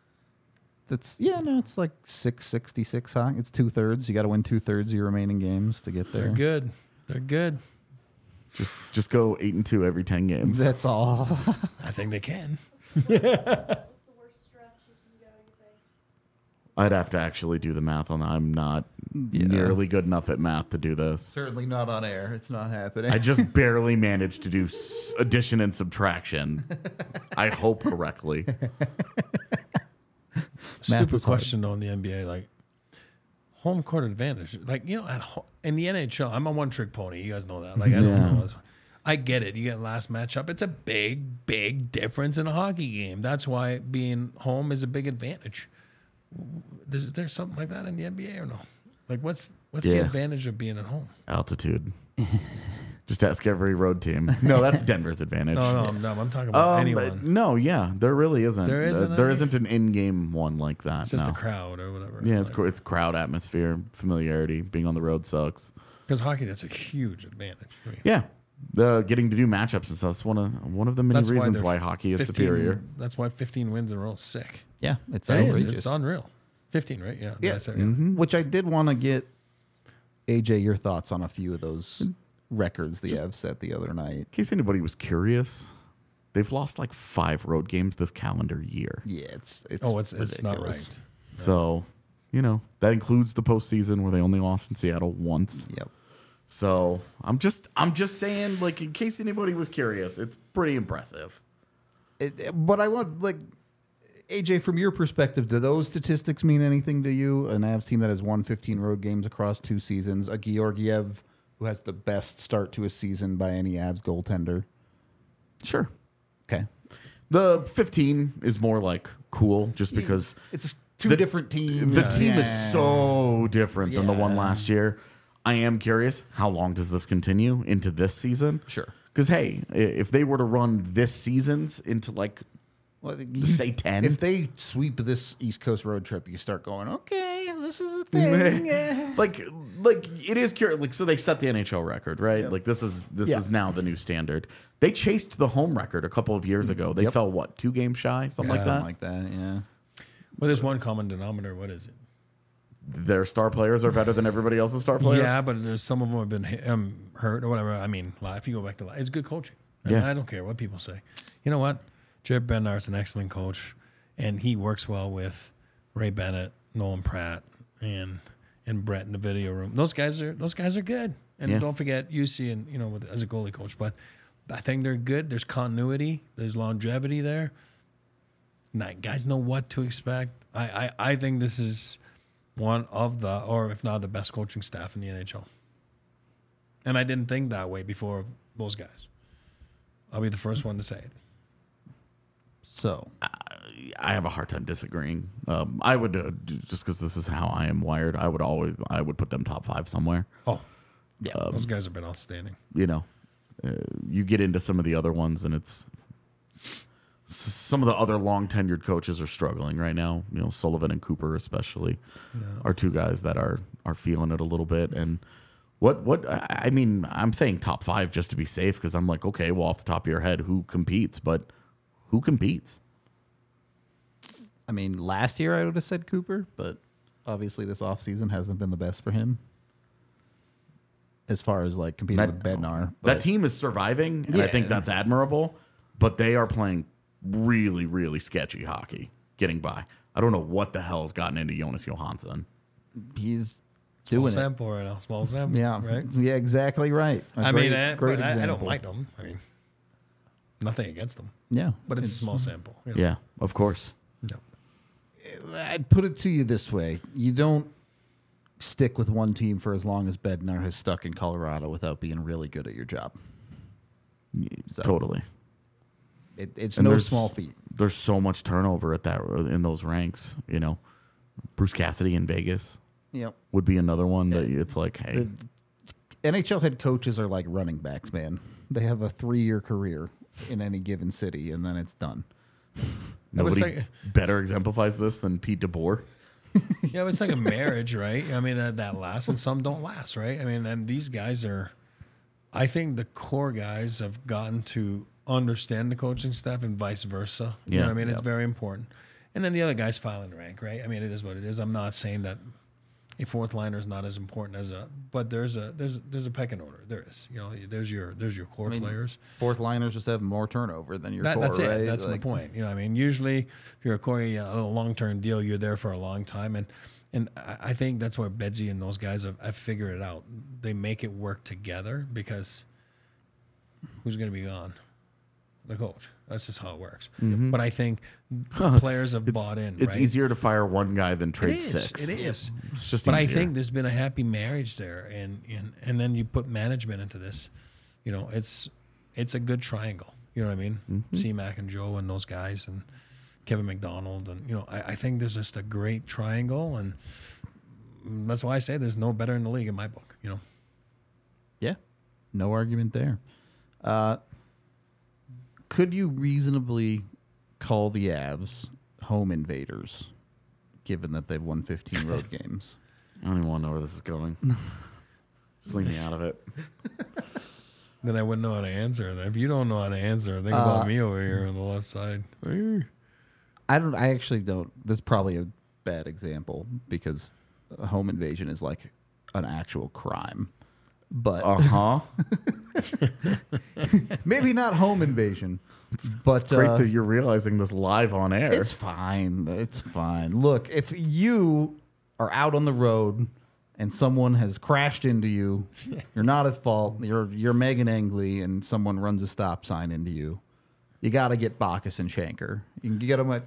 it's like 666 hockey. It's 2/3. You got to win 2/3 of your remaining games to get there. they're good. They're good. Just go 8-2 every 10 games. That's all. I think they can. What's the worst stretch you can go, you think? I'd have to actually do the math on that. I'm not nearly good enough at math to do this. Certainly not on air. It's not happening. I just barely managed to do addition and subtraction. I hope correctly. Stupid is hard. question though in the NBA, like home court advantage. Like, you know, in the NHL, I'm a one-trick pony. You guys know that. Like, I don't know. I get it. You get last matchup. It's a big, big difference in a hockey game. That's why being home is a big advantage. Is there something like that in the NBA or no? Like, what's the advantage of being at home? Altitude. Just ask every road team. No, that's Denver's advantage. No, I'm talking about anyone. But no, yeah, there really isn't. There isn't there any? isn't an in-game one like that. It's just no. the crowd or whatever. Yeah, it's crowd atmosphere, familiarity. Being on the road sucks. Because hockey, that's a huge advantage. I mean, Yeah, getting to do matchups and stuff. It's one of the many that's reasons they're why hockey is 15 superior. That's why 15 wins in a row is sick. Yeah, it's It is. outrageous. It's unreal. 15, right? Yeah. Yeah. That's it, yeah. Which I did want to get, AJ, your thoughts on a few of those records the Avs set the other night. In case anybody was curious, they've lost like 5 road games this calendar year. Yeah, it's It's ridiculous. not right. So, that includes the postseason where they only lost in Seattle once. Yep. So I'm just saying, like, in case anybody was curious, it's pretty impressive. But I want, like, AJ, from your perspective, do those statistics mean anything to you? An Avs team that has won 15 road games across 2 seasons, a Georgiev who has the best start to a season by any Avs goaltender. Sure. Okay. The 15 is more like cool just because It's two different teams. the team is so different than the one Yeah. last year. I am curious, how long does this continue into this season? Sure. Because, hey, if they were to run this season's into, like, Well, say 10. If they sweep this East Coast road trip, you start going, okay, this is a thing. Yeah. like it is curious. Like, so they set the NHL record, right? Like, this is now the new standard. They chased the home record a couple of years ago. They fell, 2 games shy? Something like that? Something like that, yeah. Well, there's one common denominator. What is it? Their star players are better than everybody else's star players? Yeah, but there's some of them have been hurt or whatever. I mean, if you go back to it's good coaching. Yeah. I don't care what people say. You know what? Jared Bednar's an excellent coach, and he works well with Ray Bennett, Nolan Pratt, and Brett in the video room. Those guys are good. And Yeah. don't forget UC and as a goalie coach. But I think they're good. There's continuity. There's longevity there. Guys know what to expect. I think this is one of the, or if not the best coaching staff in the NHL. And I didn't think that way before those guys. I'll be the first one to say it. So, I have a hard time disagreeing. I would, just because this is how I am wired, I would put them top 5 somewhere. Oh, yeah. Those guys have been outstanding. You get into some of the other ones, and it's some of the other long tenured coaches are struggling right now. Sullivan and Cooper especially are 2 guys that are feeling it a little bit. And I mean, I'm saying top 5 just to be safe, because I'm like, okay, well, off the top of your head, who competes? But who competes? I mean, last year I would have said Cooper, but obviously this offseason hasn't been the best for him as far as like competing with Bednar. That team is surviving, and I think that's admirable, but they are playing really, really sketchy hockey, getting by. I don't know what the hell has gotten into Jonas Johansson. He's Small doing sample right now. Small sample. it. Yeah, Right? Yeah, exactly right. I Great don't example. like them. I mean, nothing against them. Yeah, But it's a small sample. Yeah, of course. No. I'd put it to you this way: you don't stick with one team for as long as Bednar has stuck in Colorado without being really good at your job. So, Totally. It's And no there's- small feat. There's so much turnover in those ranks. Bruce Cassidy in Vegas Yep. would be another one that it's like, hey, NHL head coaches are like running backs, man. They have a 3-year career in any given city, and then it's done. nobody like- better exemplifies this than Pete DeBoer. Yeah, but it's like a marriage, right? I mean, that lasts and some don't last, right? I mean, and these guys I think the core guys have gotten to understand the coaching staff and vice versa. You know what I mean? It's very important. And then the other guys file in the rank, right? I mean, it is what it is. I'm not saying that a fourth liner is not as important as but there's a pecking order. There is, there's your core players. Fourth liners just have more turnover than your core, That's right? it. That's my point. Usually if you're a core, a long-term deal, you're there for a long time. And I think that's where Bedsy and those guys have figured it out. They make it work together because who's going to be gone? The coach. That's just how it works. Mm-hmm. But I think players have bought in. It's right? easier to fire one guy than trade six. It is. It's just But easier. I think there's been a happy marriage there, and then you put management into this. It's a good triangle. You know what I mean? Mm-hmm. C-Mac and Joe and those guys and Kevin McDonald, and I think there's just a great triangle, and that's why I say there's no better in the league in my book. Yeah, no argument there. Could you reasonably call the Avs home invaders, given that they've won 15 road games? I don't even want to know where this is going. Just leave me out of it. Then I wouldn't know how to answer. If you don't know how to answer, think about me over here on the left side. I actually don't. That's probably a bad example because a home invasion is like an actual crime. But maybe not home invasion. But It's great that you're realizing this live on air. it's fine. It's fine. Look, if you are out on the road and someone has crashed into you, you're not at fault. You're Megan Angley and someone runs a stop sign into you. You got to get Bacchus and Shanker. You can get them at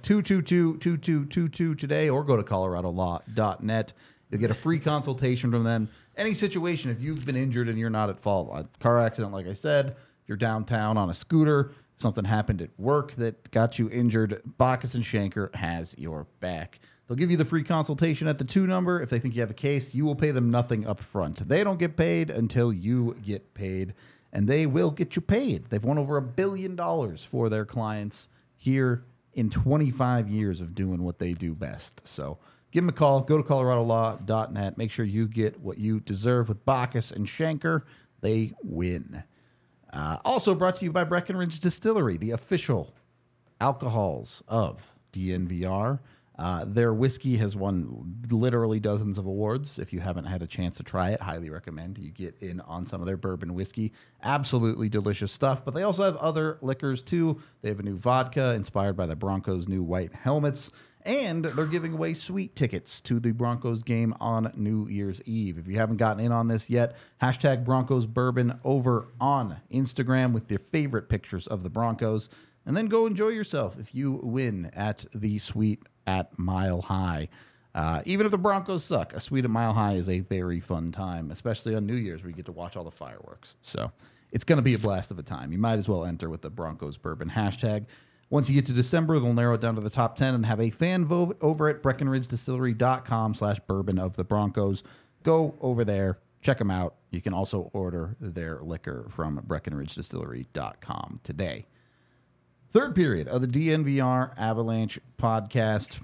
222-2222 today or go to coloradolaw.net. You'll get a free consultation from them. Any situation, if you've been injured and you're not at fault, a car accident, like I said, if you're downtown on a scooter, if something happened at work that got you injured, Bacchus and Shanker has your back. They'll give you the free consultation at the 2 number. If they think you have a case, you will pay them nothing up front. They don't get paid until you get paid, and they will get you paid. They've won over $1 billion for their clients here in 25 years of doing what they do best. So give them a call. Go to coloradolaw.net. Make sure you get what you deserve with Bacchus and Shanker. They win. Also brought to you by Breckenridge Distillery, the official alcohols of DNVR. Their whiskey has won literally dozens of awards. If you haven't had a chance to try it, highly recommend you get in on some of their bourbon whiskey. Absolutely delicious stuff. But they also have other liquors too. They have a new vodka inspired by the Broncos' new white helmets. And they're giving away sweet tickets to the Broncos game on New Year's Eve. If you haven't gotten in on this yet, hashtag Broncos Bourbon over on Instagram with your favorite pictures of the Broncos. And then go enjoy yourself if you win at the suite at Mile High. Even if the Broncos suck, a suite at Mile High is a very fun time, especially on New Year's where you get to watch all the fireworks. So it's going to be a blast of a time. You might as well enter with the Broncos Bourbon hashtag. Once you get to December, they'll narrow it down to the top 10 and have a fan vote over at BreckenridgeDistillery.com/bourbon of the Broncos. Go over there, check them out. You can also order their liquor from BreckenridgeDistillery.com today. Third period of the DNVR Avalanche podcast.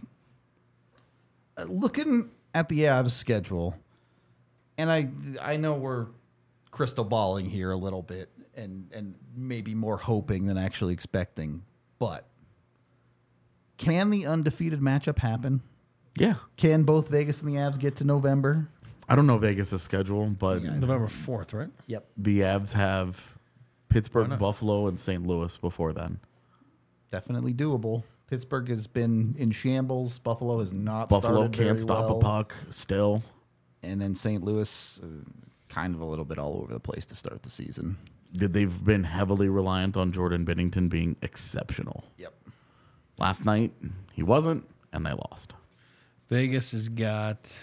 Looking at the Avs schedule, and I know we're crystal balling here a little bit and maybe more hoping than actually expecting, but can the undefeated matchup happen? Yeah. Can both Vegas and the Avs get to November? I don't know Vegas' schedule, but November 4th, right? Yep. the Avs have Pittsburgh, Buffalo, and St. Louis before then. Definitely doable. Pittsburgh has been in shambles. Buffalo has not Buffalo started can't very stop well. a puck still. And then St. Louis, kind of a little bit all over the place to start the season. They've been heavily reliant on Jordan Binnington being exceptional. Yep. Last night, he wasn't, and they lost. Vegas has got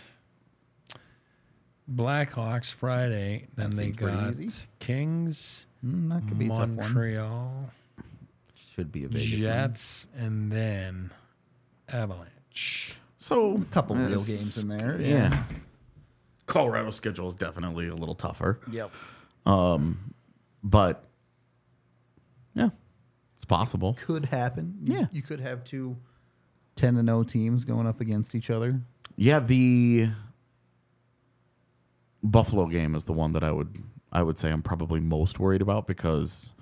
Blackhawks Friday. Then That they seems pretty got easy. Kings, That could be a tough one. Montreal, Should be a Vegas one. Jets, and then Avalanche. So, A couple real it's- games in there. Yeah. Colorado's schedule is definitely a little tougher. Yep. But, yeah, it's possible. Could happen. Yeah. You could have two 10-0 teams going up against each other. Yeah, the Buffalo game is the one that I would say I'm probably most worried about because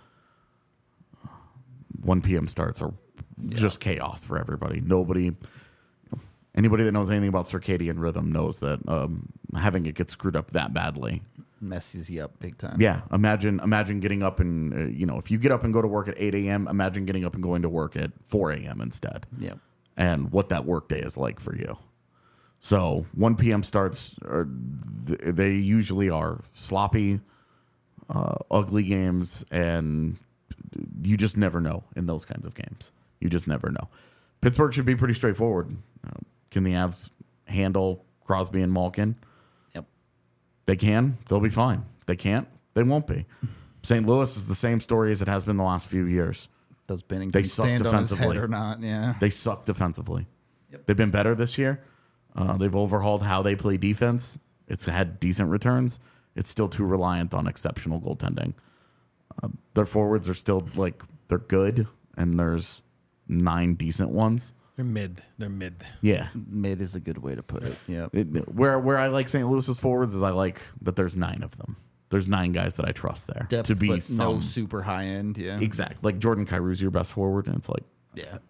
1 p.m. starts are just chaos for everybody. Nobody, Anybody that knows anything about circadian rhythm knows that having it get screwed up that badly messes you up big time. Yeah, imagine getting up and if you get up and go to work at 8 a.m., imagine getting up and going to work at 4 a.m. instead. Yeah, and what that work day is like for you. So 1 p.m. starts. They usually are sloppy, ugly games, and you just never know in those kinds of games. You just never know. Pittsburgh should be pretty straightforward. Can the Avs handle Crosby and Malkin? Yep. They can. They'll be fine. They can't. They won't be. St. Louis is the same story as it has been the last few years. Does Binnington They suck stand on his defensively. head or not? Yeah. They suck defensively. Yep. They've been better this year. They've overhauled how they play defense. It's had decent returns. It's still too reliant on exceptional goaltending. Their forwards are still they're good, and there's 9 decent ones. They're mid. Yeah. Mid is a good way to put it. Yeah. Where I like St. Louis's forwards is I like that there's 9 of them. There's 9 guys that I trust there Depth, to be but some no super high end. Yeah. exact. Like Jordan Kyrie's your best forward, and it's like, Yeah.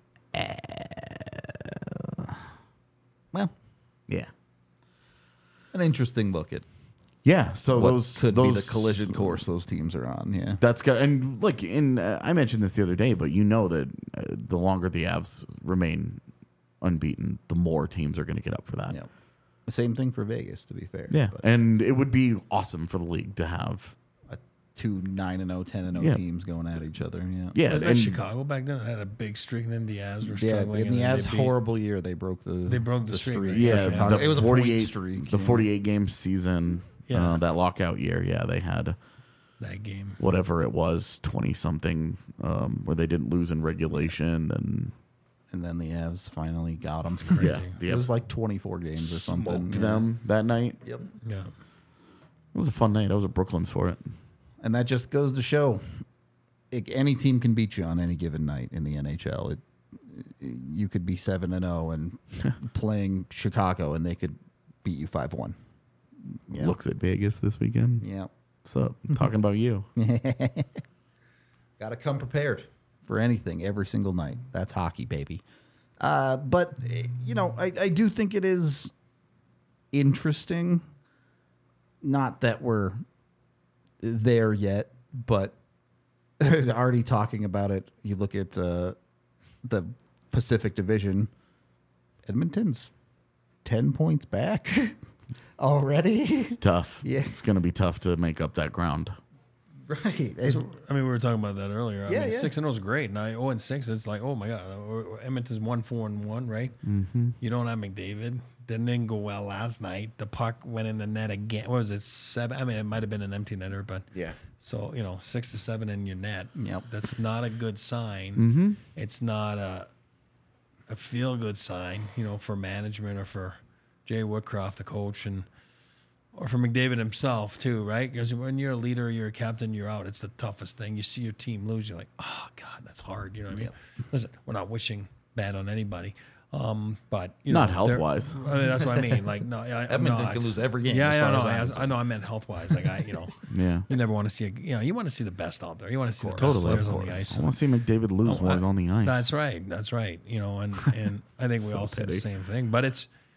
Well, yeah, an interesting look at yeah. So what those could those, be the collision course those teams are on. Yeah. That's good. And look, I mentioned this the other day, but you know that the longer the Avs remain unbeaten, the more teams are going to get up for that. Yeah. Same thing for Vegas, to be fair. Yeah, But and it would be awesome for the league to have. 2 9-0, 10-0 Yeah. teams going at each other. Yeah. Yeah, Was that and Chicago back then? Had a big streak, and then the Avs were Yeah, struggling. in the and then Avs' they beat- horrible year, they broke the streak, right? yeah, Chicago. the It was a 48 point streak. the yeah. 48 game season, Yeah. that lockout year. Yeah, they had that game. whatever it was, 20 something, where they didn't lose in regulation, And then the Avs finally got them. Crazy. yeah, the It was Avs like 24 games or something. smoked yeah. them that night. Yep. Yeah. It was a fun night. I was at Brooklyn's for it. And that just goes to show any team can beat you on any given night in the NHL. You could be 7-0 and playing Chicago, and they could beat you 5-1. Yeah. Looks at Vegas this weekend. Yeah. What's up? Talking about you. Got to come prepared for anything every single night. That's hockey, baby. But, I do think it is interesting. Not that we're there yet, but already talking about it. You look at the Pacific Division, Edmonton's 10 points back already. It's tough. Yeah. It's going to be tough to make up that ground. Right. So, we were talking about that earlier. I Yeah, mean, yeah. 6-0 is great. Now 0-6, it's like, oh my god, Edmonton's 1-4-1, right? Mm-hmm. You don't have McDavid. Didn't go well last night. The puck went in the net again. What was it? 7? I mean, it might have been an empty netter, but Yeah. So 6-7 in your net. Yep. That's not a good sign. Mm-hmm. It's not a feel good sign, for management or for Jay Woodcroft, the coach, or for McDavid himself too, right? Because when you're a leader, you're a captain, you're out. It's the toughest thing. You see your team lose, you're like, oh God, that's hard. You know what I mean? Listen, we're not wishing bad on anybody, but Not health-wise. I mean, that's what I mean. Like, no, Edmonton can lose every game. Yeah, as yeah, far no, as I'm I concerned. know. I meant health wise. Like Yeah. you never want to see you want to see the best out there. You want to see the best Totally. players on the ice. I want to see McDavid lose while he's on the ice. That's right. That's right. And I think we So all say the petty. same thing. But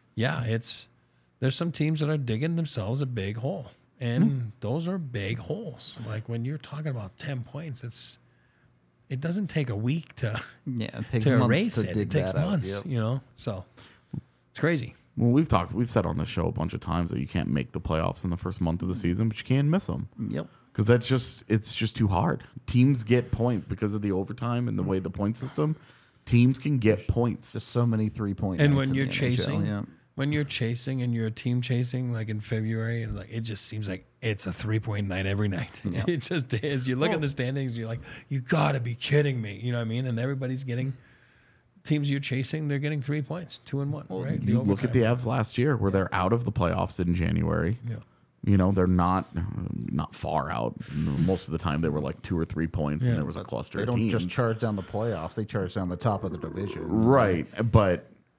there's some teams that are digging themselves a big hole. And those are big holes. Like when you're talking about 10 points, it doesn't take a week to Yeah, it takes to months erase to it. dig It takes that out. months, Yep. So it's crazy. Well, we've said on this show a bunch of times that you can't make the playoffs in the first month of the season, but you can miss them. Yep. Because it's just too hard. Teams get points because of the overtime and the way the point system. Teams can get points. Just so many 3-point. And nights when in you're the NHL, chasing, yeah. when you're chasing and you're a team chasing, like in February, and like it just seems like it's a 3-point night every night. Yeah. It just is. You look at the standings, you're like, you got to be kidding me. You know what I mean? And everybody's getting teams you're chasing. They're getting 3 points, 2-1. Right? The You look at the overtime. Avs last year, where they're out of the playoffs in January. Yeah. They're not far out. Most of the time, they were like 2 or 3 points, and there was a cluster They of don't teams. just charge down the playoffs; they charge down the top of the division. Right, but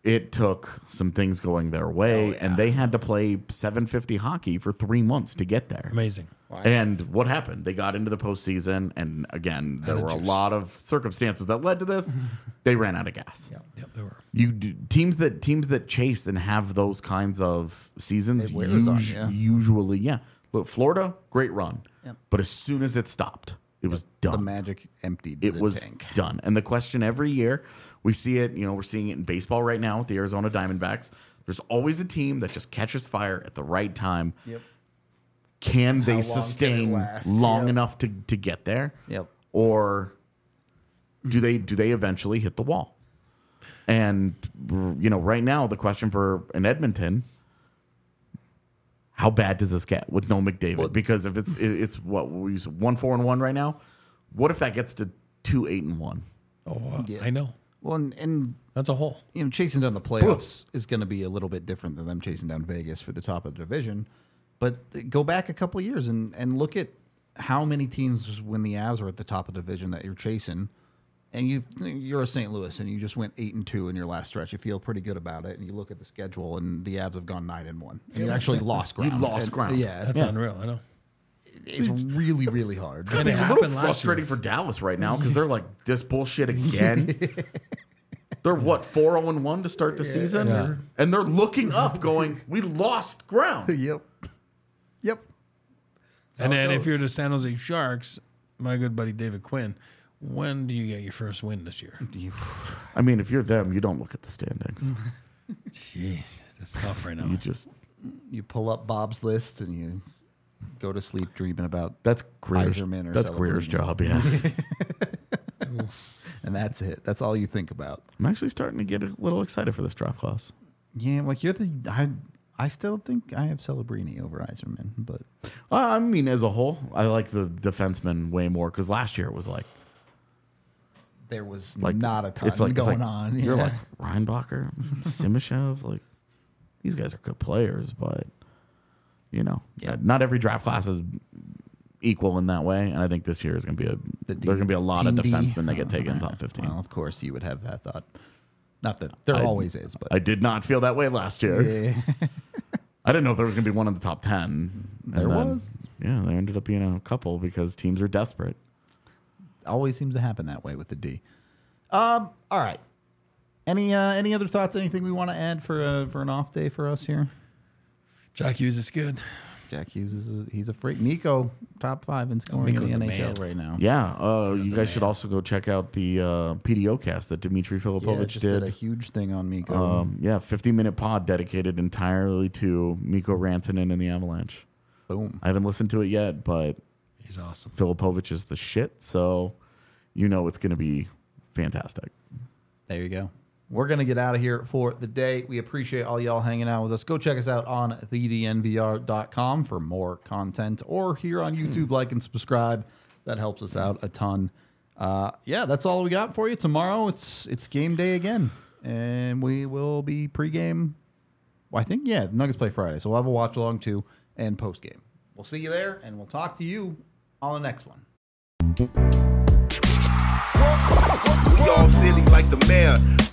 it took some things going their way, and they had to play 750 hockey for 3 months to get there. Amazing. And what happened? They got into the postseason, and again, there were a lot of circumstances that led to this. They ran out of gas. Yep, they were. Teams that chase and have those kinds of seasons It wears on you. usually, Look, Florida, great run, Yep. but as soon as it stopped, it was done. The Magic emptied It the was tank. done. And the question every year, we see it, we're seeing it in baseball right now with the Arizona Diamondbacks. There's always a team that just catches fire at the right time. Yep. Can How they long sustain can it last? long Yep. enough to get there? Yep. Or do they eventually hit the wall? And right now the question for in Edmonton, how bad does this get with no McDavid? Because if it's what we use 1-4-1 right now, what if that gets to 2-8-1? Oh, Yeah. I know. Well, and That's a hole. chasing down the playoffs is going to be a little bit different than them chasing down Vegas for the top of the division. But go back a couple of years and look at how many teams when the Avs are at the top of the division that you're chasing, and you're a St. Louis and you just went 8-2 in your last stretch. You feel pretty good about it, and you look at the schedule, and the Avs have gone 9-1. And you actually lost ground. You lost ground. Yeah, That's unreal. I know. it's really, really hard. It's gonna be it a little happened last frustrating for Dallas right now because they're like this bullshit again. They're what 4-1 to start the season, Yeah. and they're looking up, going, "We lost ground." Yep. And how it then if goes. you're the San Jose Sharks, my good buddy David Quinn, when do you get your first win this year? I mean, if you're them, you don't look at the standings. Jeez, that's tough right now. You just You pull up Bob's list and you go to sleep dreaming about that's Greer's, Yzerman or that's Greer's Celebrini. job. Yeah, and that's it. That's all you think about. I'm actually starting to get a little excited for this draft class. Yeah, like you're I still think I have Celebrini over Yzerman, but I mean, as a whole, I like the defenseman way more because last year it was like there was like not a ton it's like, going on. You're Yeah. like Reinbacher, Simashev, like these guys are good players, but not every draft class is equal in that way. And I think this year is going to be there's going to be a lot of Team D. defensemen that get taken in top 15. Well, of course you would have that thought. Not that there I- always is, but I did not feel that way last year. yeah. I didn't know if there was going to be one in the top 10. And There then, was. Yeah, there ended up being a couple because teams are desperate. Always seems to happen that way with the D. All right. Any other thoughts? Anything we want to add for an off day for us here? Jack Hughes is good. Jack Hughes he's a freak. Nico, top 5 in scoring Nico's in the the NHL man. right now. Yeah, you the guys should man. also go check out the PDO cast that Dmitry Yeah, Filipovich just did a did. huge thing on Miko. 50-minute pod dedicated entirely to Mikko Rantanen and the Avalanche. Boom. I haven't listened to it yet, but He's awesome. Filipovich is the shit, so it's going to be fantastic. There you go. We're going to get out of here for the day. We appreciate all y'all hanging out with us. Go check us out on thednvr.com for more content, or here on YouTube, like and subscribe. That helps us out a ton. That's all we got for you. Tomorrow, it's game day again, and we will be pregame. Well, I think, the Nuggets play Friday, so we'll have a watch along too and post game. We'll see you there, and we'll talk to you on the next one. We all silly like the mayor.